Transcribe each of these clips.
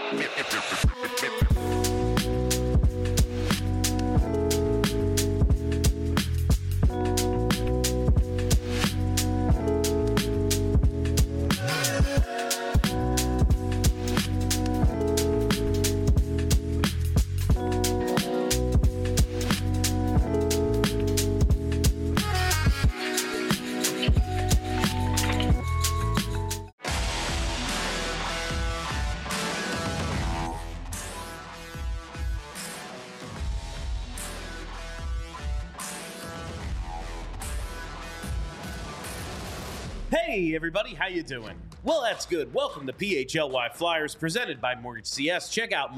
Hey everybody, how you doing? Well, that's good. Welcome to PHLY Flyers presented by Mortgage CS. Check out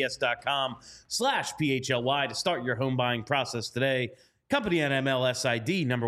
mortgagecs.com/PHLY to start your home buying process today. Company NMLS ID number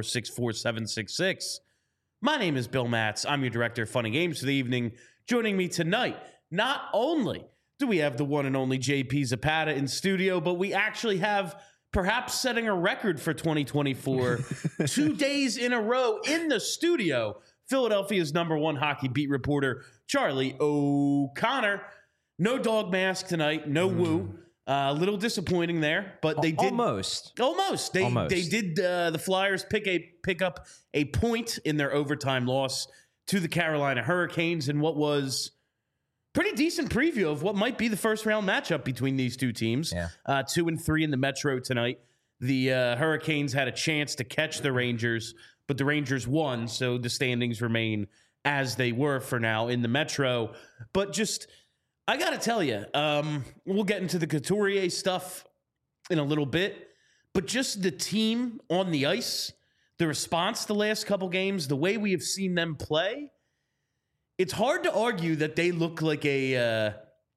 1464766. My name is Bill Matz. I'm your director of fun and games for the evening. Joining me tonight, not only do we have the one and only JP Zapata in studio, but we actually have perhaps setting a record for 2024, 2 days in a row in the studio, Philadelphia's number one hockey beat reporter, Charlie O'Connor. No dog mask tonight, no woo. A little disappointing there, but they did almost. They did. The Flyers pick up a point in their overtime loss to the Carolina Hurricanes in what was pretty decent preview of what might be the first round matchup between these two teams. 2 and 3 in the Metro tonight. The Hurricanes had a chance to catch the Rangers, but the Rangers won, so the standings remain as they were for now in the Metro. But just, I got to tell you, we'll get into the Couturier stuff in a little bit, but just the team on the ice, the response the last couple games, the way we have seen them play, it's hard to argue that they look like a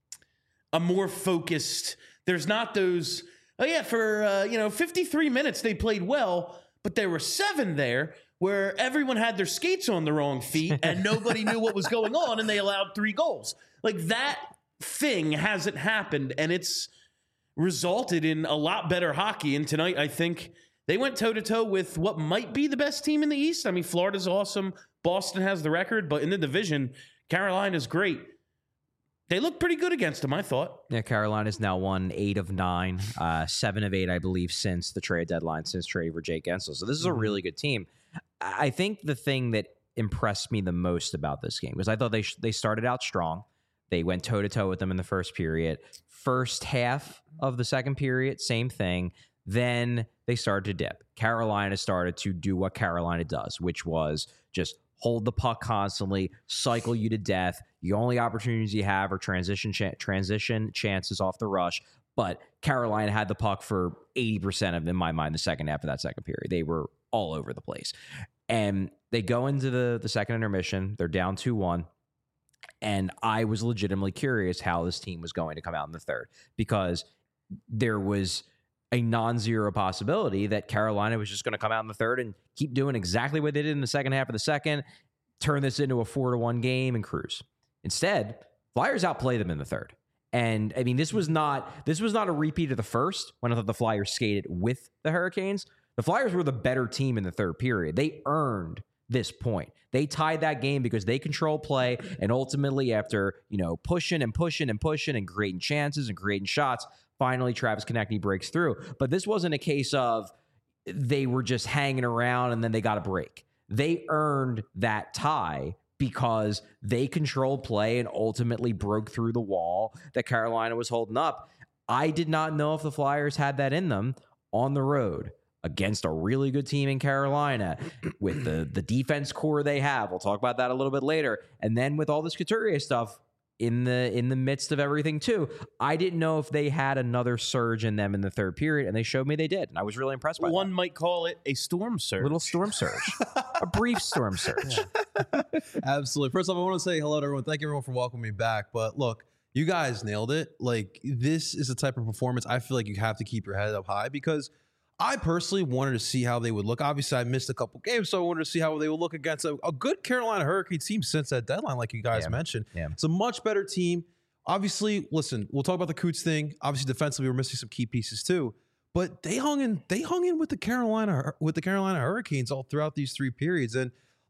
more focused. There's not those. Oh yeah, for 53 minutes they played well, but there were 7 there where everyone had their skates on the wrong feet and nobody knew what was going on, and they allowed 3 goals. Like, that thing hasn't happened, and it's resulted in a lot better hockey. And tonight, I think they went toe-to-toe with what might be the best team in the East. I mean, Florida's awesome. Boston has the record, but in the division, Carolina's great. They look pretty good against them, I thought. Yeah, Carolina's now won 8 of 9, 7 of 8, I believe, since the trade deadline, since trading for Jake Guentzel. So this is a really good team. I think the thing that impressed me the most about this game was I thought they started out strong. They went toe-to-toe with them in the first period. First half of the second period, same thing. Then they started to dip. Carolina started to do what Carolina does, which was just hold the puck constantly, cycle you to death. The only opportunities you have are transition chances off the rush. But Carolina had the puck for 80% of, in my mind, the second half of that second period. They were all over the place. And they go into the second intermission. They're down 2-1. And I was legitimately curious how this team was going to come out in the third, because there was a non-zero possibility that Carolina was just going to come out in the third and keep doing exactly what they did in the second half of the second, turn this into a 4-1 game and cruise. Instead, Flyers outplay them in the third. And I mean, this was not a repeat of the first, when I thought the Flyers skated with the Hurricanes. The Flyers were the better team in the third period. They earned this point. They tied that game because they controlled play, and ultimately, after pushing and creating chances and creating shots, finally Travis Konecny breaks through. But this wasn't a case of they were just hanging around and then they got a break. They earned that tie because they controlled play and ultimately broke through the wall that Carolina was holding up. I did not know if the Flyers had that in them on the road against a really good team in Carolina with the defense core they have. We'll talk about that a little bit later. And then with all this Couturier stuff in the midst of everything too, I didn't know if they had another surge in them in the third period, and they showed me they did. And I was really impressed by One that. might call it a storm surge. Little storm surge. A brief storm surge. Yeah. Absolutely. First off, I want to say hello to everyone. Thank you everyone for welcoming me back. But look, you guys nailed it. Like, this is the type of performance I feel like you have to keep your head up high, because I personally wanted to see how they would look. Obviously, I missed a couple games, so I wanted to see how they would look against a good Carolina Hurricanes team since that deadline, like you guys mentioned. Yeah. It's a much better team. Obviously, listen, we'll talk about the Coots thing. Obviously, defensively, we're missing some key pieces too. But they hung in with the Carolina Hurricanes all throughout these 3 periods. And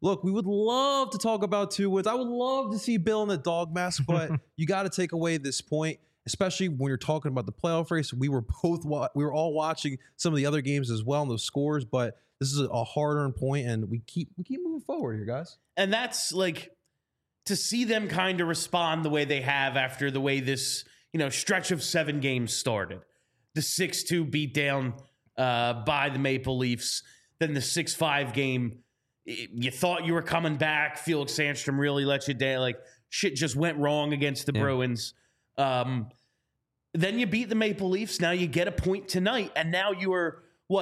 look, we would love to talk about 2 wins. I would love to see Bill in the dog mask, but you got to take away this point, especially when you're talking about the playoff race. We were all watching some of the other games as well and those scores, but this is a hard-earned point, and we keep moving forward here, guys. And that's like to see them kind of respond the way they have after the way this, stretch of 7 games started. The 6-2 beatdown by the Maple Leafs, then the 6-5 game. You thought you were coming back. Felix Sandstrom really let you down. Like, shit just went wrong against the Bruins. Then you beat the Maple Leafs. Now you get a point tonight, and now you are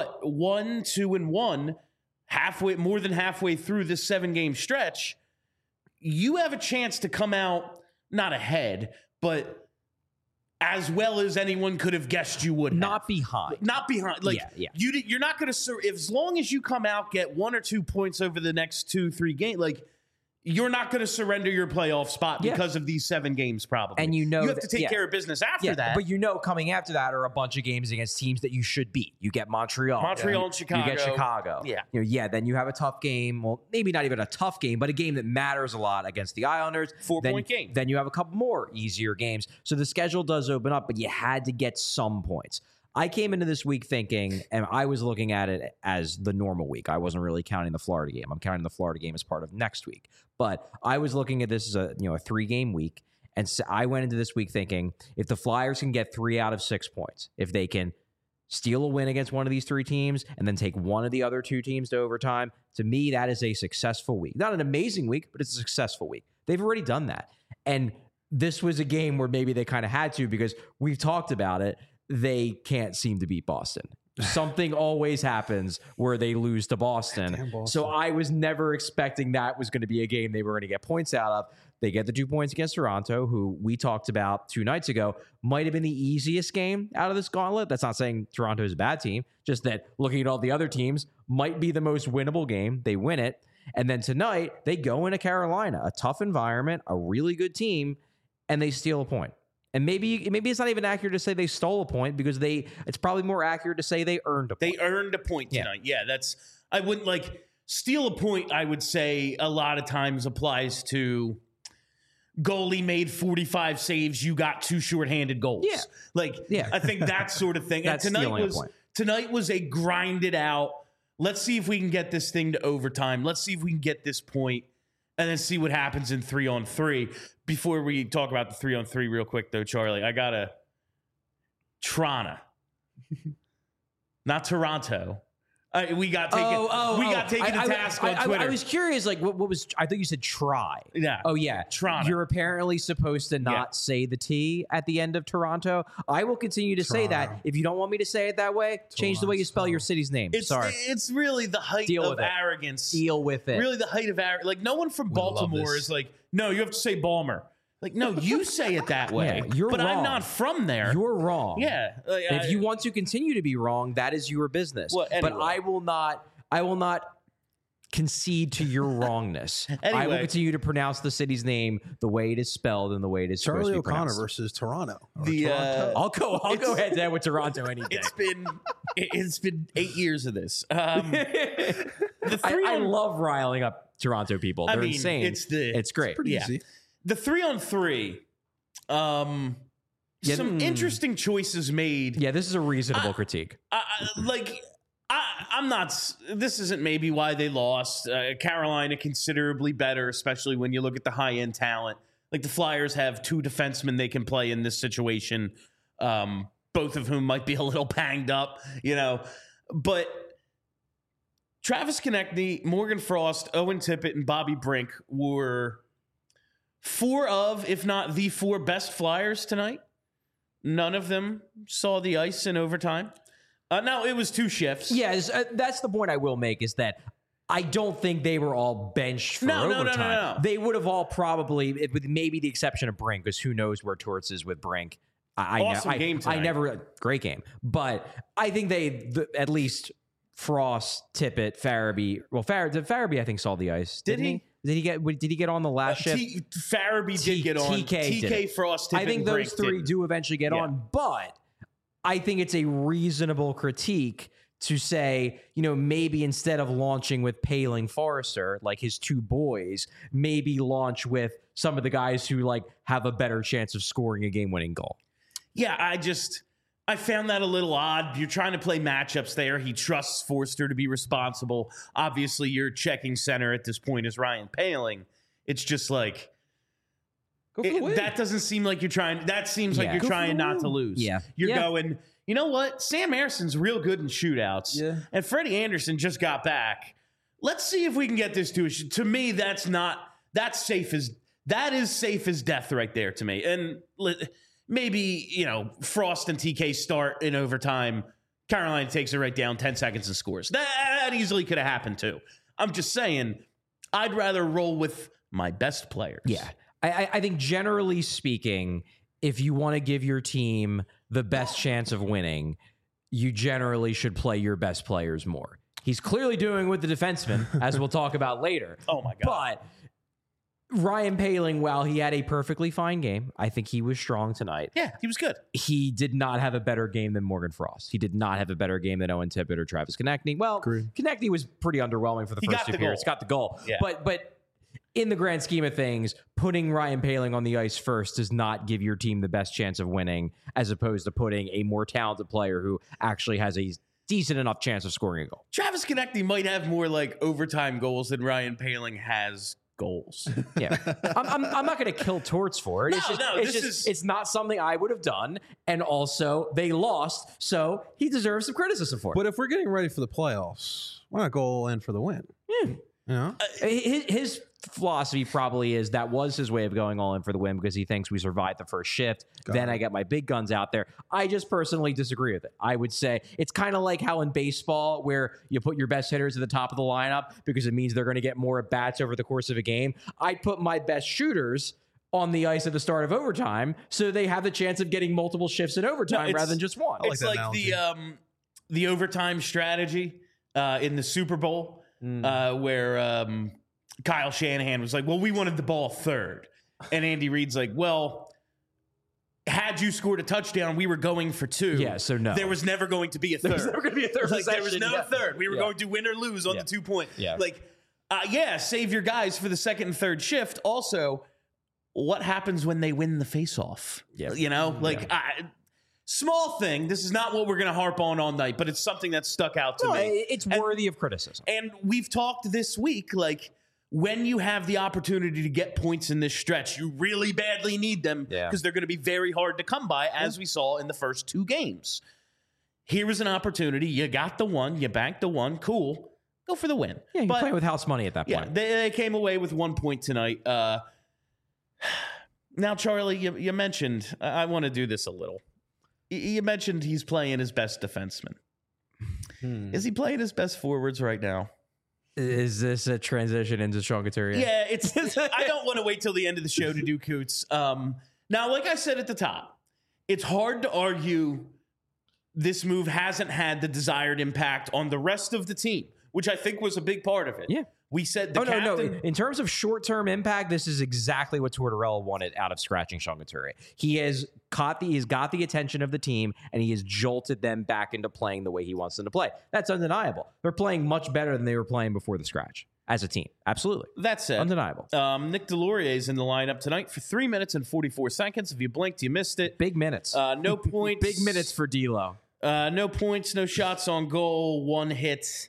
1-2-1, more than halfway through this 7-game stretch. You have a chance to come out not ahead, but as well as anyone could have guessed you would. Not behind. Like, you're not going to, as long as you come out, get 1 or 2 points over the next 2-3 games, like, you're not going to surrender your playoff spot because of these 7 games, probably. And you have to take care of business after that. But coming after that are a bunch of games against teams that you should beat. You get Montreal and Chicago. You get Chicago. Yeah. Then you have a tough game. Well, maybe not even a tough game, but a game that matters a lot against the Islanders. 4-point game. Then you have a couple more easier games. So the schedule does open up, but you had to get some points. I came into this week thinking, and I was looking at it as the normal week. I wasn't really counting the Florida game. I'm counting the Florida game as part of next week. But I was looking at this as a 3-game week, and so I went into this week thinking, if the Flyers can get 3 out of 6 points, if they can steal a win against one of these 3 teams and then take one of the other 2 teams to overtime, to me, that is a successful week. Not an amazing week, but it's a successful week. They've already done that. And this was a game where maybe they kind of had to, because we've talked about it. They can't seem to beat Boston. Something always happens where they lose to Boston. So I was never expecting that was going to be a game they were going to get points out of. They get the 2 points against Toronto, who we talked about 2 nights ago, might have been the easiest game out of this gauntlet. That's not saying Toronto is a bad team, just that looking at all the other teams might be the most winnable game. They win it. And then tonight, they go into Carolina, a tough environment, a really good team, and they steal a point. And maybe it's not even accurate to say they stole a point, because it's probably more accurate to say they earned a point. They earned a point tonight. Yeah, I wouldn't steal a point, I would say a lot of times applies to goalie made 45 saves, you got 2 shorthanded goals. Yeah. I think that sort of thing. That's and tonight was a grinded out, let's see if we can get this thing to overtime. Let's see if we can get this point, and then see what happens in 3-on-3. Before we talk about the 3-on-3 real quick, though, Charlie, I got a Toronto, not Toronto. We got taken to task on Twitter. I was curious, what was? I think you said try. Yeah. Oh yeah, Toronto. You're apparently supposed to not say the T at the end of Toronto. I will continue to say that. If you don't want me to say it that way, change the way you spell your city's name. Sorry. It's really the height of arrogance. Deal with it. Really the height of arrogance. Like, no one from Baltimore is like, no, you have to say Balmer. Like, no, you say it that way. You're but wrong. I'm not from there. You're wrong. Yeah. If you want to continue to be wrong, that is your business. Well, anyway. But I will not concede to your wrongness. Anyway. I will continue to pronounce the city's name the way it is spelled and the way it is supposed to be pronounced. Charlie O'Connor versus Toronto. I'll go head to head with Toronto any day. It's been 8 years of this. I love riling up Toronto people. They're insane. It's great. It's pretty easy. The 3-on-3, some interesting choices made. Yeah, this is a reasonable critique. I'm not. This isn't maybe why they lost. Carolina considerably better, especially when you look at the high end talent. Like, the Flyers have 2 defensemen they can play in this situation, both of whom might be a little banged up, But Travis Konechny, Morgan Frost, Owen Tippett, and Bobby Brink were 4 of, if not the 4 best Flyers tonight. None of them saw the ice in overtime. No, it was 2 shifts. Yeah, that's the point I will make, is that I don't think they were all benched for overtime. No. They would have all probably, with maybe the exception of Brink, because who knows where Torts is with Brink. Game tonight. Great game. But I think at least Frost, Tippett, Farabee. Well, Farabee I think saw the ice. Didn't he? Did he get on the last shift? Farabee did get on. TK, Frost, Tippett, I think those 3 do eventually get on, but I think it's a reasonable critique to say, maybe instead of launching with Paling Forrester, like his two boys, maybe launch with some of the guys who like have a better chance of scoring a game-winning goal. Yeah, I found that a little odd. You're trying to play matchups there. He trusts Forster to be responsible. Obviously, your checking center at this point is Ryan Paling. It's just like, that doesn't seem like you're trying. That seems like you're trying not to lose. Yeah. You're going, you know what? Sam Harrison's real good in shootouts. Yeah. And Freddie Anderson just got back. Let's see if we can get this to me, that is safe as death right there to me. And maybe, Frost and TK start in overtime. Carolina takes it right down, 10 seconds and scores. That easily could have happened too. I'm just saying, I'd rather roll with my best players. Yeah. I think generally speaking, if you want to give your team the best chance of winning, you generally should play your best players more. He's clearly doing with the defenseman, as we'll talk about later. Oh, my God. But Ryan Paling, while he had a perfectly fine game, I think he was strong tonight. Yeah, he was good. He did not have a better game than Morgan Frost. He did not have a better game than Owen Tippett or Travis Konechny. Well, Konechny was pretty underwhelming for the first two periods. Got the goal. Yeah. But in the grand scheme of things, putting Ryan Paling on the ice first does not give your team the best chance of winning, as opposed to putting a more talented player who actually has a decent enough chance of scoring a goal. Travis Konechny might have more like overtime goals than Ryan Paling has goals. Yeah, I'm not going to kill Torts for it. It's not something I would have done. And also, they lost, so he deserves some criticism for it. But if we're getting ready for the playoffs, why not go all in for the win? Yeah. His philosophy probably is that was his way of going all in for the win because he thinks we survived the first shift. Then I get my big guns out there. I just personally disagree with it. I would say it's kind of like how in baseball where you put your best hitters at the top of the lineup because it means they're going to get more at-bats over the course of a game. I'd put my best shooters on the ice at the start of overtime so they have the chance of getting multiple shifts in overtime rather than just one. It's like the overtime strategy in the Super Bowl where Kyle Shanahan was like, well, we wanted the ball third. And Andy Reid's like, well, had you scored a touchdown, we were going for two. Yeah, so no. There was never going to be a third. There was never going to be a third There was no third. We were going to win or lose on the 2 point. Yeah. Save your guys for the second and third shift. Also, what happens when they win the face-off? Yeah. Small thing. This is not what we're going to harp on all night, but it's something that stuck out to me. It's worthy of criticism. And we've talked this week, when you have the opportunity to get points in this stretch, you really badly need them because they're going to be very hard to come by, as we saw in the first two games. Here was an opportunity. You got the one. You banked the one. Cool. Go for the win. Yeah, you're playing with house money at that point. Yeah, they came away with 1 point tonight. Now, Charlie, you mentioned, I want to do this a little. You mentioned he's playing his best defenseman. Is he playing his best forwards right now? Is this a transition into Sean Couturier? Yeah, I don't want to wait till the end of the show to do Coots. Now, like I said at the top, it's hard to argue this move hasn't had the desired impact on the rest of the team, which I think was a big part of it. Yeah. We said captain. No. In terms of short-term impact, this is exactly what Tortorella wanted out of scratching Sean Couturier. He's got the attention of the team, and he has jolted them back into playing the way he wants them to play. That's undeniable. They're playing much better than they were playing before the scratch as a team. Absolutely. That's it. Undeniable. Nick Deslauriers is in the lineup tonight for 3 minutes and 44 seconds. If you blinked, you missed it. Big minutes. No points. Big minutes for D'Lo. No points, no shots on goal, one hit.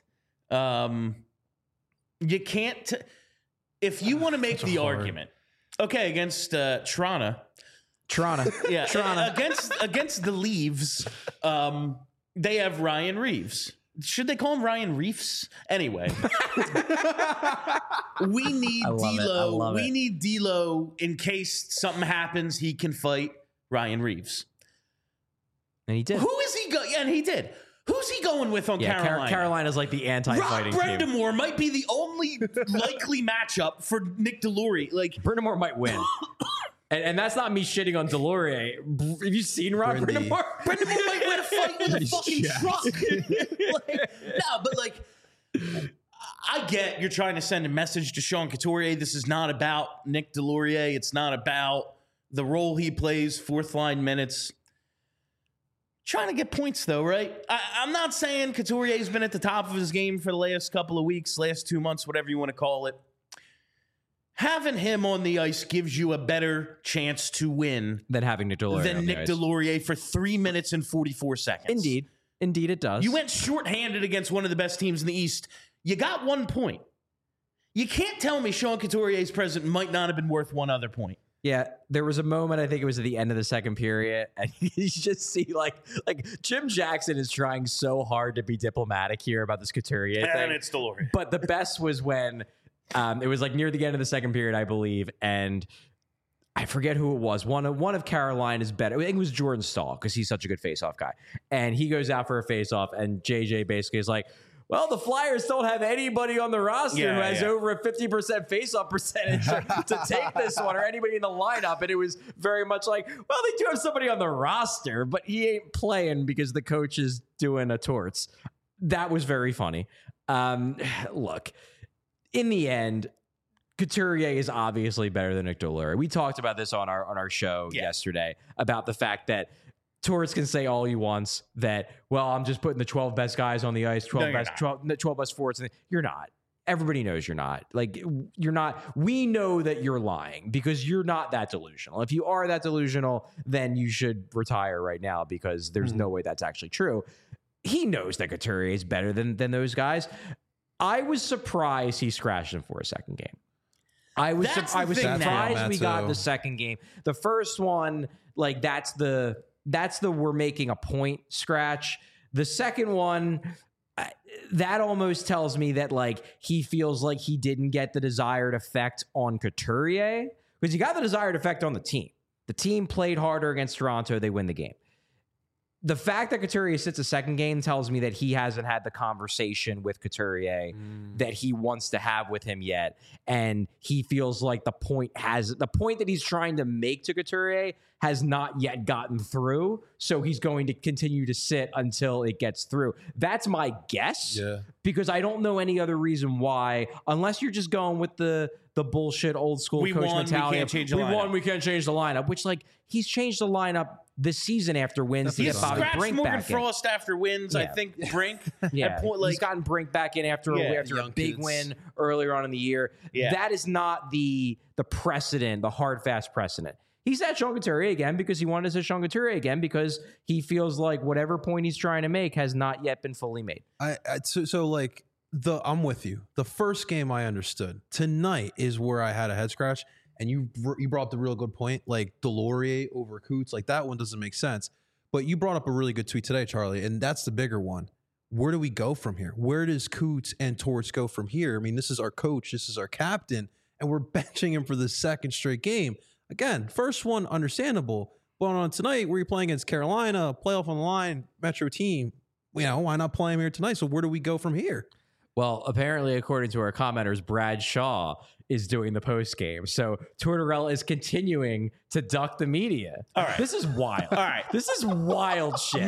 You can't. If you want to make the argument, against Toronto. Yeah, Toronto. against the Leaves, they have Ryan Reeves. Should they call him Ryan Reefs? Anyway, we need D'Lo. We need D'Lo in case something happens. He can fight Ryan Reeves, and he did. Who is he? And he did. Who's he going with on Carolina? Carolina's like the anti-fighting team. Rob Brind'Amour might be the only likely matchup for Nick Deslauriers. Brind'Amour might win. And that's not me shitting on Deslauriers. Have you seen Rob Brind'Amour? Brind'Amour might win a fight with a fucking truck. I get you're trying to send a message to Sean Couturier. This is not about Nick Deslauriers. It's not about the role he plays, fourth line minutes. trying to get points, though, right? I'm not saying Couturier's been at the top of his game for the last couple of weeks, last 2 months, whatever you want to call it. Having him on the ice gives you a better chance to win than having Nick Delorier. Than Nick Delorier for 3 minutes and 44 seconds. Indeed, it does. You went shorthanded against one of the best teams in the East. You got 1 point. You can't tell me Sean Couturier's presence might not have been worth one other point. Yeah, there was a moment, I think it was at the end of the second period, and you just see like Jim Jackson is trying so hard to be diplomatic here about this Couturier thing. And it's Delorier. But the best was when it was like near the end of the second period, I believe, and I forget who it was. One of Carolina's better. I think it was Jordan Stahl because he's such a good faceoff guy. And he goes out for a faceoff, and JJ basically is like, well, the Flyers don't have anybody on the roster who has over a 50% faceoff percentage to take this one, or anybody in the lineup. And it was very much like, well, they do have somebody on the roster, but he ain't playing because the coach is doing a torts. That was very funny. Look, in the end, Couturier is obviously better than Nick Delorier. We talked about this on our show yesterday about the fact that Torts can say all he wants that, well, I'm just putting the 12 best guys on the ice, 12 best forwards. You're not. Everybody knows you're not. Like, you're not. We know that you're lying because you're not that delusional. If you are that delusional, then you should retire right now because there's no way that's actually true. He knows that Couturier is better than those guys. I was surprised he scratched him for a second game. I was surprised we got the second game. The first one, like, that's the we're making a point scratch. The second one, that almost tells me that, like, he feels like he didn't get the desired effect on Couturier because he got the desired effect on the team. The team played harder against Toronto. They win the game. The fact that Couturier sits a second game tells me that he hasn't had the conversation with Couturier that he wants to have with him yet. And he feels like the point that he's trying to make to Couturier has not yet gotten through. So he's going to continue to sit until it gets through. That's my guess. Yeah. Because I don't know any other reason why, unless you're just going with the bullshit old school coach mentality. We can't change the lineup, which, like, he's changed the lineup this season after wins. He's scratched Brink Morgan Frost after wins. Yeah. I think Brink. He's gotten Brink back in after a big win earlier on in the year. Yeah. That is not the precedent, the hard, fast precedent. He said Sean Couturier again because he wanted to say Sean Couturier again because he feels like whatever point he's trying to make has not yet been fully made. I'm with you. The first game I understood. Tonight is where I had a head scratch. And you brought up the real good point, like Delorier over Coots, like that one doesn't make sense. But you brought up a really good tweet today, Charlie, and that's the bigger one. Where do we go from here? Where does Coots and Torts go from here? I mean, this is our coach, this is our captain, and we're benching him for the second straight game. Again, first one, understandable. But on tonight, where you're playing against Carolina, playoff on the line, Metro team, why not play him here tonight? So where do we go from here? Well, apparently, according to our commenters, Brad Shaw is doing the post game. So Tortorella is continuing to duck the media. All right. This is wild. All right. This is wild shit.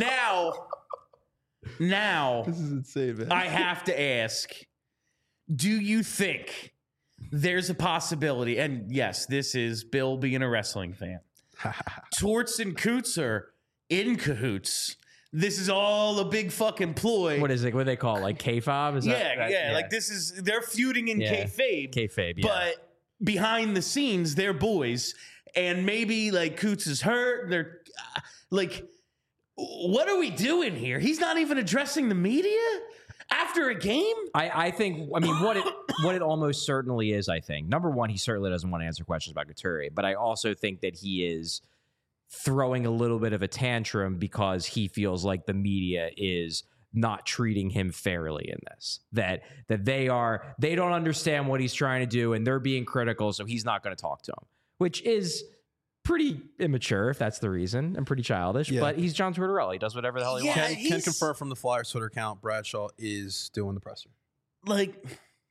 Now this is insane, man. I have to ask, do you think there's a possibility, and yes, this is Bill being a wrestling fan, Torts and Coots are in cahoots? This is all a big fucking ploy. What is it? What do they call it? Like K-Fob? Yeah. Like they're feuding in kayfabe. Kayfabe, yeah. But behind the scenes, they're boys. And maybe like Coots is hurt. They're like, what are we doing here? He's not even addressing the media after a game? I think, what it almost certainly is, I think. Number one, he certainly doesn't want to answer questions about Couturier. But I also think that he is throwing a little bit of a tantrum because he feels like the media is not treating him fairly in this. That they don't understand what he's trying to do and they're being critical, so he's not going to talk to him, which is pretty immature if that's the reason, and pretty childish. Yeah. But he's John Tortorella. He does whatever the hell he wants. Can confirm from the Flyers Twitter account, Bradshaw is doing the presser. Like,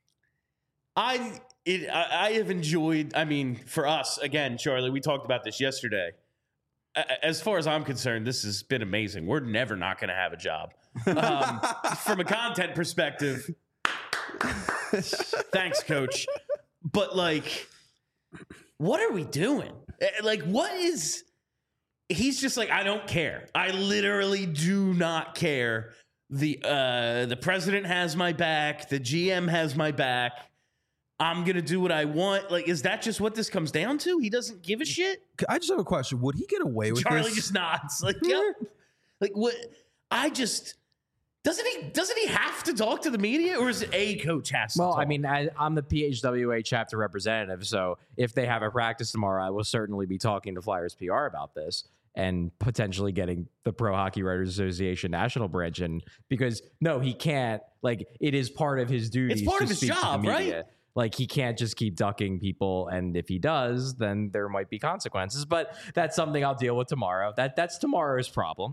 I have enjoyed, for us, again, Charlie, we talked about this yesterday. As far as I'm concerned, this has been amazing. We're never not going to have a job. From a content perspective, thanks, Coach. But, like, what are we doing? Like, what is he's just like, I don't care. I literally do not care. The president has my back. The GM has my back. I'm going to do what I want. Like, is that just what this comes down to? He doesn't give a shit? I just have a question. Would he get away with Charlie this? just nods. Like, yep. Like, what? Doesn't he have to talk to the media, or is it a coach has to Well, talk? I mean, I'm the PHWA chapter representative, so if they have a practice tomorrow, I will certainly be talking to Flyers PR about this and potentially getting the Pro Hockey Writers Association national branch in, because no, he can't. Like, it is part of his duty. It's part of his job, right? Like, he can't just keep ducking people, and if he does, then there might be consequences. But that's something I'll deal with tomorrow. That's tomorrow's problem.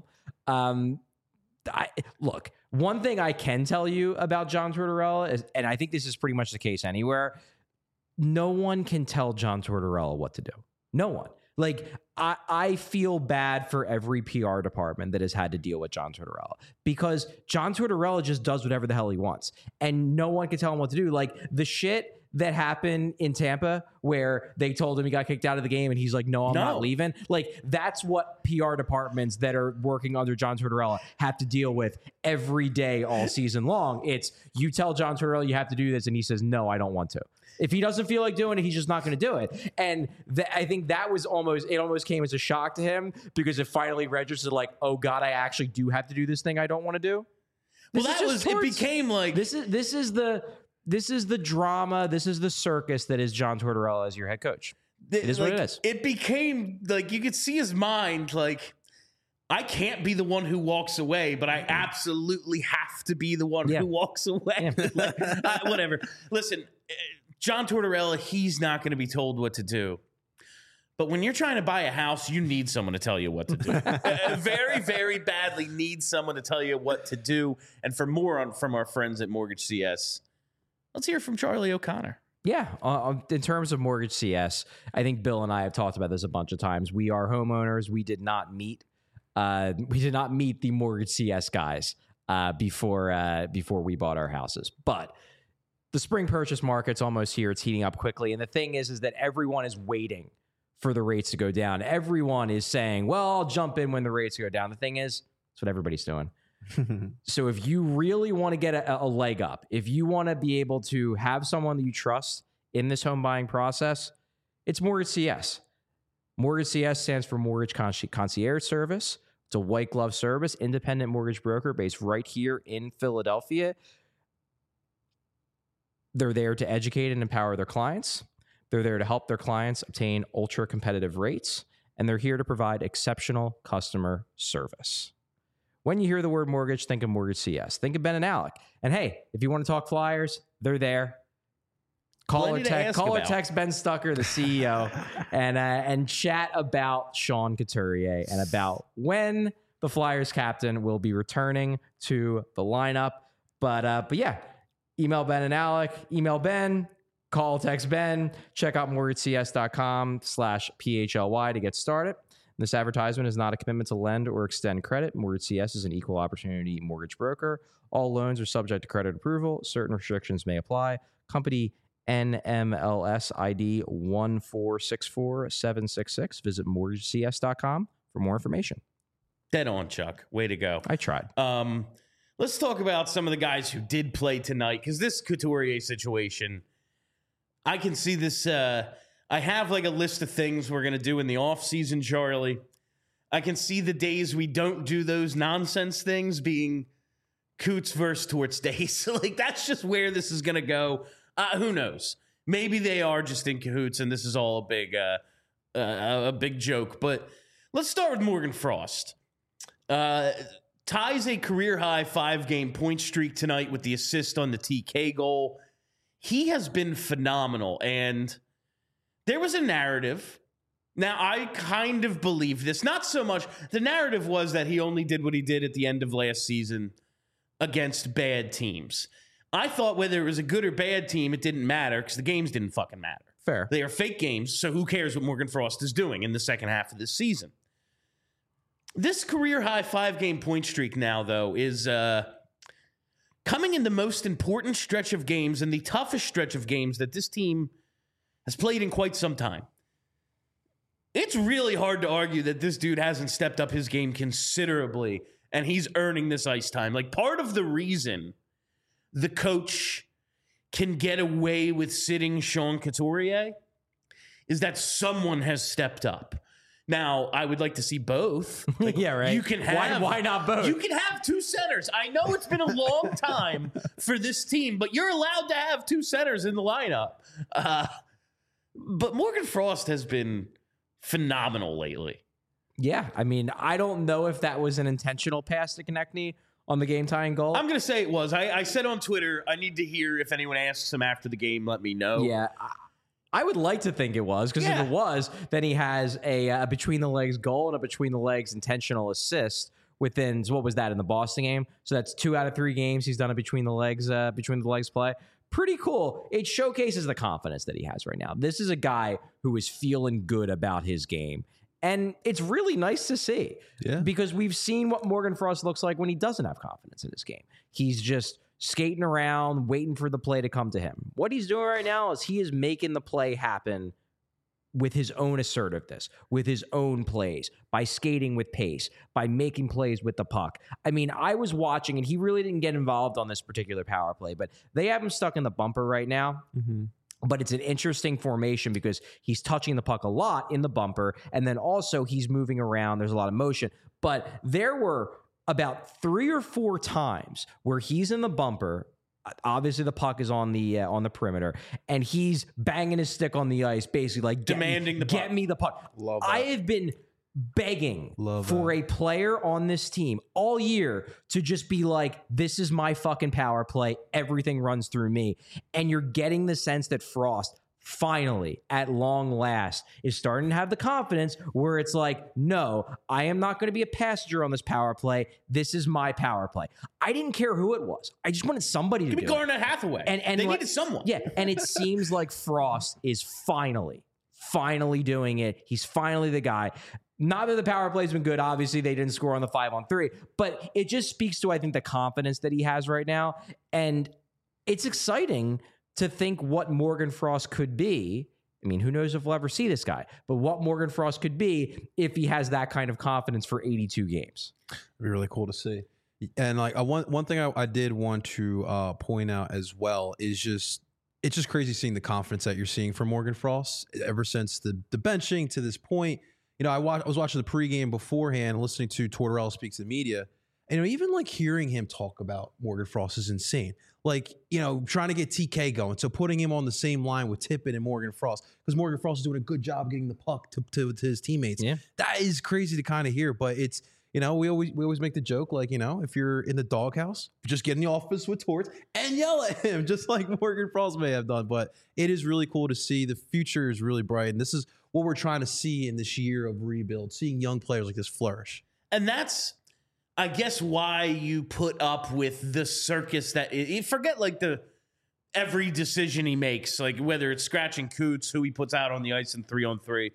Look, one thing I can tell you about John Tortorella is, and I think this is pretty much the case anywhere, no one can tell John Tortorella what to do. No one. Like, I feel bad for every PR department that has had to deal with John Tortorella, because John Tortorella just does whatever the hell he wants, and no one can tell him what to do. Like, the shit that happened in Tampa where they told him he got kicked out of the game and he's like, no, I'm not leaving. Like, that's what PR departments that are working under John Tortorella have to deal with every day all season long. It's, you tell John Tortorella you have to do this, and he says, no, I don't want to. If he doesn't feel like doing it, he's just not going to do it. And I think that was almost came as a shock to him, because it finally registered like, oh God, I actually do have to do this thing I don't want to do. Well, it became like, this is the drama. This is the circus that is John Tortorella as your head coach. It is like, what it is. It became like, you could see his mind like, I can't be the one who walks away, but I absolutely have to be the one who walks away. Like, whatever. Listen, John Tortorella, he's not going to be told what to do. But when you're trying to buy a house, you need someone to tell you what to do. Very, very badly need someone to tell you what to do. And for more from our friends at Mortgage CS, let's hear from Charlie O'Connor. Yeah. In terms of Mortgage CS, I think Bill and I have talked about this a bunch of times. We are homeowners. We did not meet the Mortgage CS guys before we bought our houses. But the spring purchase market's almost here. It's heating up quickly. And the thing is that everyone is waiting for the rates to go down. Everyone is saying, well, I'll jump in when the rates go down. The thing is, that's what everybody's doing. So if you really want to get a leg up, if you want to be able to have someone that you trust in this home buying process, it's Mortgage CS. Mortgage CS stands for Mortgage Concierge Service. It's a white glove service, independent mortgage broker based right here in Philadelphia. They're there to educate and empower their clients. They're there to help their clients obtain ultra competitive rates, and they're here to provide exceptional customer service. When you hear the word mortgage, think of Mortgage CS. Think of Ben and Alec. And hey, if you want to talk Flyers, they're there. Call or text Ben Stucker, the CEO, and chat about Sean Couturier and about when the Flyers captain will be returning to the lineup. But yeah, email Ben and Alec, email Ben, call, text Ben, check out mortgagecs.com/PHLY to get started. This advertisement is not a commitment to lend or extend credit. Mortgage CS is an equal opportunity mortgage broker. All loans are subject to credit approval. Certain restrictions may apply. Company NMLS ID 1464766. Visit mortgagecs.com for more information. Dead on, Chuck. Way to go. I tried. Let's talk about some of the guys who did play tonight, because this Couturier situation, I can see this. I have like a list of things we're going to do in the offseason, Charlie. I can see the days we don't do those nonsense things being Coots versus Torts days. Like, that's just where this is going to go. Who knows? Maybe they are just in cahoots and this is all a big joke. But let's start with Morgan Frost. Ties a career-high 5-game point streak tonight with the assist on the TK goal. He has been phenomenal, and there was a narrative. Now, I kind of believe this. Not so much. The narrative was that he only did what he did at the end of last season against bad teams. I thought whether it was a good or bad team, it didn't matter because the games didn't fucking matter. Fair. They are fake games, so who cares what Morgan Frost is doing in the second half of this season? This career-high 5-game point streak now, though, is coming in the most important stretch of games and the toughest stretch of games that this team has played in quite some time. It's really hard to argue that this dude hasn't stepped up his game considerably, and he's earning this ice time. Like, part of the reason the coach can get away with sitting Sean Couturier is that someone has stepped up. Now, I would like to see both. Like, yeah, right. You can have why not both? You can have two centers. I know it's been a long time for this team, but you're allowed to have two centers in the lineup. But Morgan Frost has been phenomenal lately. Yeah, I mean, I don't know if that was an intentional pass to Konechny on the game-tying goal. I'm going to say it was. I said on Twitter, I need to hear if anyone asks him after the game, let me know. Yeah, I would like to think it was, because if it was, then he has a between-the-legs goal and a between-the-legs intentional assist within, what was that, in the Boston game? So that's 2 out of 3 games he's done a between-the-legs play. Pretty cool. It showcases the confidence that he has right now. This is a guy who is feeling good about his game. And it's really nice to see, because we've seen what Morgan Frost looks like when he doesn't have confidence in his game. He's just skating around, waiting for the play to come to him. What he's doing right now is he is making the play happen with his own assertiveness, with his own plays, by skating with pace, by making plays with the puck. I mean, I was watching, and he really didn't get involved on this particular power play, but they have him stuck in the bumper right now. Mm-hmm. But it's an interesting formation because he's touching the puck a lot in the bumper, and then also he's moving around. There's a lot of motion. But there were about 3 or 4 times where he's in the bumper. Obviously, the puck is on the perimeter, and he's banging his stick on the ice, basically like demanding the puck. Get me the puck. Love that. I have been begging for a player on this team all year to just be like, this is my fucking power play. Everything runs through me. And you're getting the sense that Frost finally, at long last, is starting to have the confidence where it's like, no, I am not going to be a passenger on this power play. This is my power play. I didn't care who it was. I just wanted somebody to do it. Garnet Hathaway. And they needed someone. Yeah, and it seems like Frost is finally doing it. He's finally the guy. Not that the power play's been good. Obviously, they didn't score on the 5-on-3, but it just speaks to, I think, the confidence that he has right now. And it's exciting to think what Morgan Frost could be. I mean, who knows if we'll ever see this guy, but what Morgan Frost could be if he has that kind of confidence for 82 games. It'd be really cool to see. And like one thing I did want to point out as well is just, it's just crazy seeing the confidence that you're seeing from Morgan Frost ever since the benching to this point. You know, I was watching the pregame beforehand, listening to Tortorella speak to the media, and even like hearing him talk about Morgan Frost is insane. Like, you know, trying to get TK going, so putting him on the same line with Tippett and Morgan Frost, because Morgan Frost is doing a good job getting the puck to his teammates. Yeah. That is crazy to kind of hear, but it's, you know, we always make the joke, like, you know, if you're in the doghouse, just get in the office with Torts and yell at him, just like Morgan Frost may have done. But it is really cool to see. The future is really bright, and this is what we're trying to see in this year of rebuild, seeing young players like this flourish. And that's, I guess, why you put up with the circus that forget like every decision he makes, like whether it's scratching Coots, who he puts out on the ice in 3-on-3.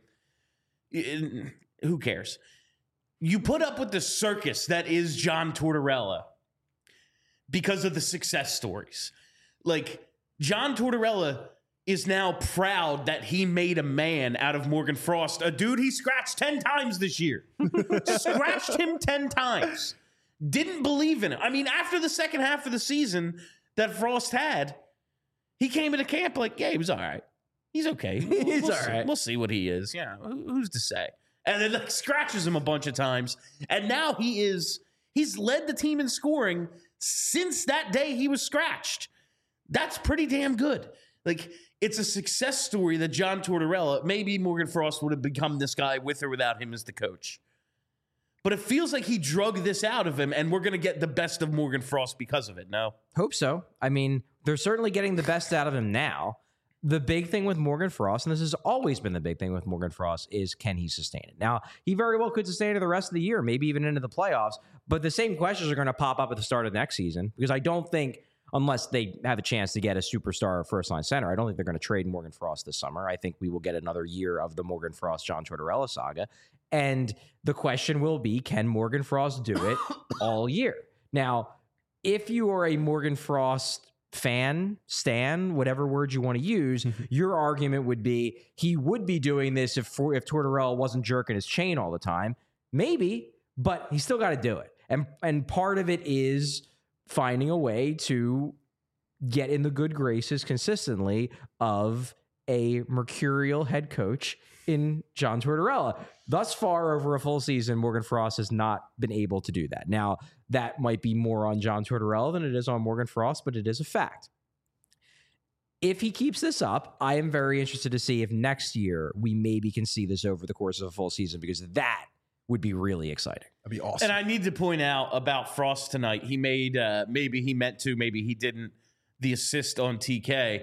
Who cares? You put up with the circus that is John Tortorella because of the success stories. Like, John Tortorella is now proud that he made a man out of Morgan Frost, a dude he scratched 10 times this year. Scratched him 10 times. Didn't believe in it. I mean, after the second half of the season that Frost had, he came into camp like, yeah, he was all right. He's okay. He's all right. We'll see what he is. Yeah, who's to say? And then like scratches him a bunch of times. And now he's led the team in scoring since that day he was scratched. That's pretty damn good. Like, it's a success story that John Tortorella, maybe Morgan Frost would have become this guy with or without him as the coach. But it feels like he drug this out of him, and we're going to get the best of Morgan Frost because of it, no? Hope so. I mean, they're certainly getting the best out of him now. The big thing with Morgan Frost, and this has always been the big thing with Morgan Frost, is can he sustain it? Now, he very well could sustain it the rest of the year, maybe even into the playoffs, but the same questions are going to pop up at the start of next season, because I don't think, unless they have a chance to get a superstar first-line center, I don't think they're going to trade Morgan Frost this summer. I think we will get another year of the Morgan Frost, John Tortorella saga. And the question will be, can Morgan Frost do it all year? Now, if you are a Morgan Frost stan, whatever word you want to use, your argument would be he would be doing this if Tortorella wasn't jerking his chain all the time. Maybe, but he's still got to do it. And part of it is finding a way to get in the good graces consistently of a mercurial head coach in John Tortorella. Thus far, over a full season, Morgan Frost has not been able to do that. Now, that might be more on John Tortorella than it is on Morgan Frost, but it is a fact. If he keeps this up, I am very interested to see if next year we maybe can see this over the course of a full season, because that would be really exciting. That'd be awesome. And I need to point out about Frost tonight. He made, maybe he meant to, maybe he didn't, the assist on TK.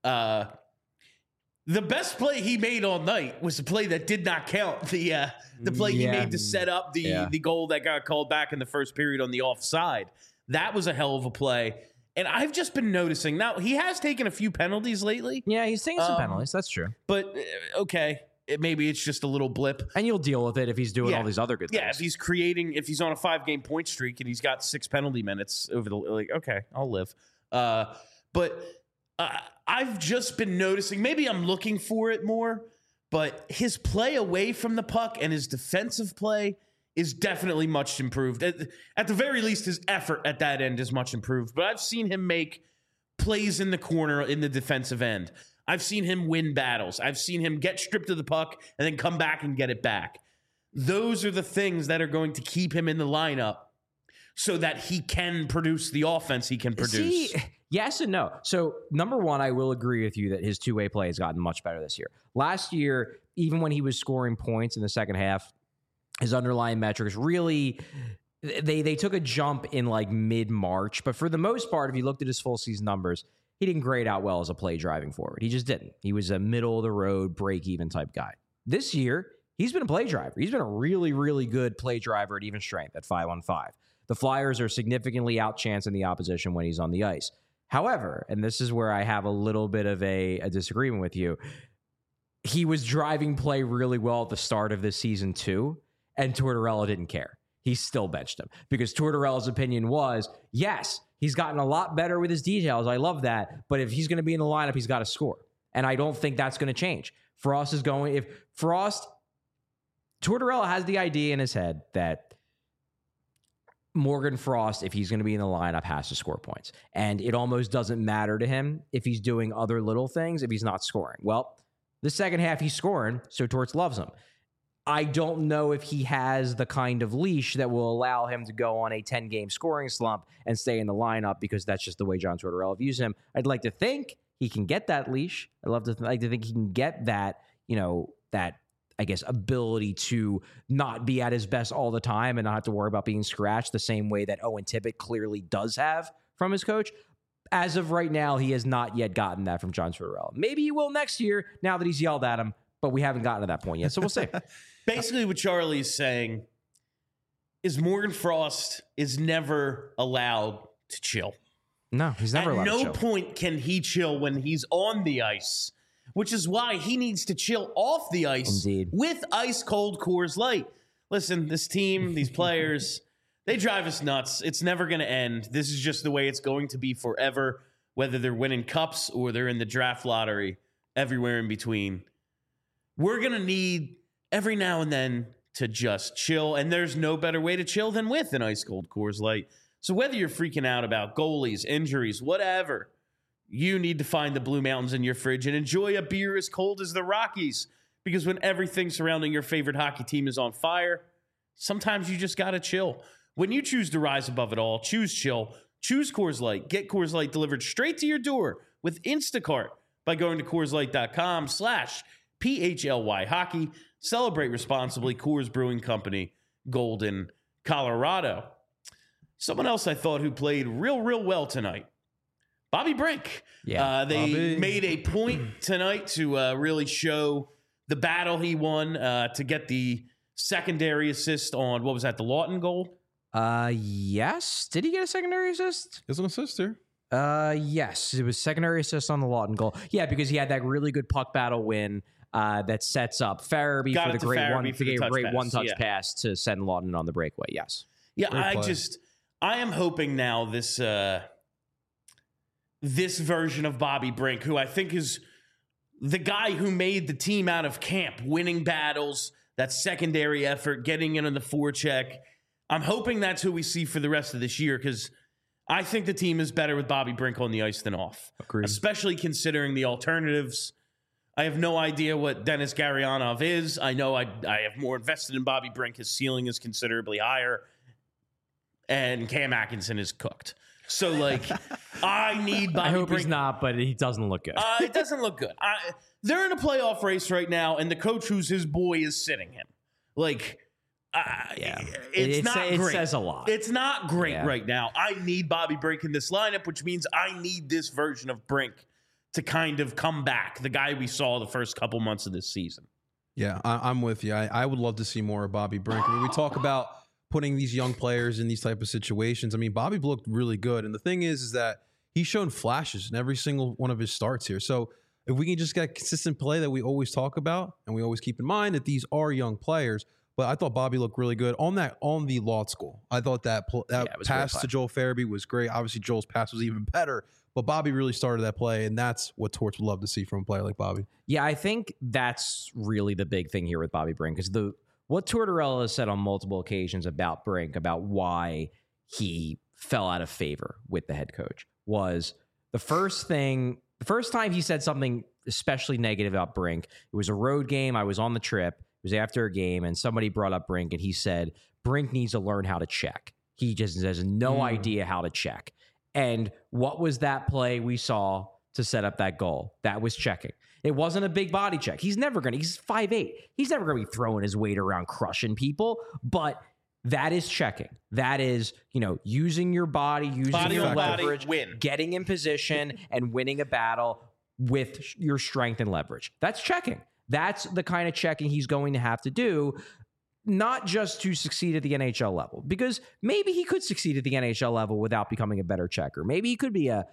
The best play he made all night was the play that did not count. The play he made to set up the goal that got called back in the first period on the offside. That was a hell of a play. And I've just been noticing. Now, he has taken a few penalties lately. Yeah, he's taking some penalties. That's true. But, okay, maybe it's just a little blip. And you'll deal with it if he's doing all these other good things. Yeah, if he's on a 5-game point streak and he's got 6 penalty minutes over the, okay, I'll live. But I've just been noticing, maybe I'm looking for it more, but his play away from the puck and his defensive play is definitely much improved. At the very least, his effort at that end is much improved. But I've seen him make plays in the corner in the defensive end. I've seen him win battles. I've seen him get stripped of the puck and then come back and get it back. Those are the things that are going to keep him in the lineup so that he can produce the offense he can produce. Yes and no. So, number one, I will agree with you that his two-way play has gotten much better this year. Last year, even when he was scoring points in the second half, his underlying metrics really, they took a jump in like mid-March. But for the most part, if you looked at his full season numbers, he didn't grade out well as a play driving forward. He just didn't. He was a middle-of-the-road, break-even type guy. This year, he's been a play driver. He's been a really, really good play driver at even strength at 5-on-5. The Flyers are significantly outchancing the opposition when he's on the ice. However, and this is where I have a little bit of a disagreement with you, he was driving play really well at the start of this season too, and Tortorella didn't care. He still benched him because Tortorella's opinion was, yes, he's gotten a lot better with his details. I love that. But if he's going to be in the lineup, he's got to score. And I don't think that's going to change. Tortorella has the idea in his head that Morgan Frost, if he's going to be in the lineup, has to score points. And it almost doesn't matter to him if he's doing other little things if he's not scoring. Well, the second half he's scoring, so Torts loves him. I don't know if he has the kind of leash that will allow him to go on a 10-game scoring slump and stay in the lineup, because that's just the way John Tortorella views him. I'd like to think he can get that leash. I'd like to think he can get that, that, I guess, ability to not be at his best all the time and not have to worry about being scratched the same way that Owen Tippett clearly does have from his coach. As of right now, he has not yet gotten that from John Tortorella. Maybe he will next year now that he's yelled at him, but we haven't gotten to that point yet, so we'll see. Basically, what Charlie's saying is Morgan Frost is never allowed to chill. No, he's never allowed to chill. At no point can he chill when he's on the ice, which is why he needs to chill off the ice with ice-cold Coors Light. Listen, this team, these players, they drive us nuts. It's never going to end. This is just the way it's going to be forever, whether they're winning cups or they're in the draft lottery, everywhere in between. We're going to need every now and then to just chill, and there's no better way to chill than with an ice-cold Coors Light. So whether you're freaking out about goalies, injuries, whatever, you need to find the Blue Mountains in your fridge and enjoy a beer as cold as the Rockies. Because when everything surrounding your favorite hockey team is on fire, sometimes you just got to chill. When you choose to rise above it all, choose chill. Choose Coors Light. Get Coors Light delivered straight to your door with Instacart by going to CoorsLight.com/PHLY hockey. Celebrate responsibly. Coors Brewing Company, Golden, Colorado. Someone else I thought who played real well tonight, Bobby Brink. Yeah, they made a point tonight to really show the battle he won to get the secondary assist on, what was that, the Lawton goal? Yes. Did he get a secondary assist? It's an assist here. Yes. It was secondary assist on the Lawton goal. Yeah, because he had that really good puck battle win that sets up Farabee for the great one-touch pass to send Lawton on the breakaway. Yes. Yeah, I am hoping now this this version of Bobby Brink, who I think is the guy who made the team out of camp, winning battles, that secondary effort, getting in on the forecheck. I'm hoping that's who we see for the rest of this year, because I think the team is better with Bobby Brink on the ice than off. Agreed. Especially considering the alternatives. I have no idea what Dennis Garyanov is. I know I have more invested in Bobby Brink. His ceiling is considerably higher. And Cam Atkinson is cooked. So, like, I need Bobby I hope Brink. he's not, but he doesn't look good. It doesn't look good. They're in a playoff race right now, and the coach who's his boy is sitting him. Like, it's not great. It says a lot. It's not great right now. I need Bobby Brink in this lineup, which means I need this version of Brink to kind of come back, the guy we saw the first couple months of this season. Yeah, I'm with you. I would love to see more of Bobby Brink. I mean, we talk about putting these young players in these type of situations. I mean, Bobby looked really good. And the thing is that he's shown flashes in every single one of his starts here. So if we can just get consistent play that we always talk about, and we always keep in mind that these are young players, but I thought Bobby looked really good on the law school. I thought that pass to Joel Farabee was great. Obviously, Joel's pass was even better, but Bobby really started that play, and that's what Torts would love to see from a player like Bobby. Yeah, I think that's really the big thing here with Bobby Brink, is what Tortorella has said on multiple occasions about Brink, about why he fell out of favor with the head coach, was the first time he said something especially negative about Brink. It was a road game. I was on the trip. It was after a game, and somebody brought up Brink, and he said, Brink needs to learn how to check. He just has no idea how to check. And what was that play we saw to set up that goal? That was checking. It wasn't a big body check. He's 5'8". He's never going to be throwing his weight around crushing people, but that is checking. That is, using your body, using your leverage, getting in position and winning a battle with your strength and leverage. That's checking. That's the kind of checking he's going to have to do, not just to succeed at the NHL level, because maybe he could succeed at the NHL level without becoming a better checker. Maybe he could be a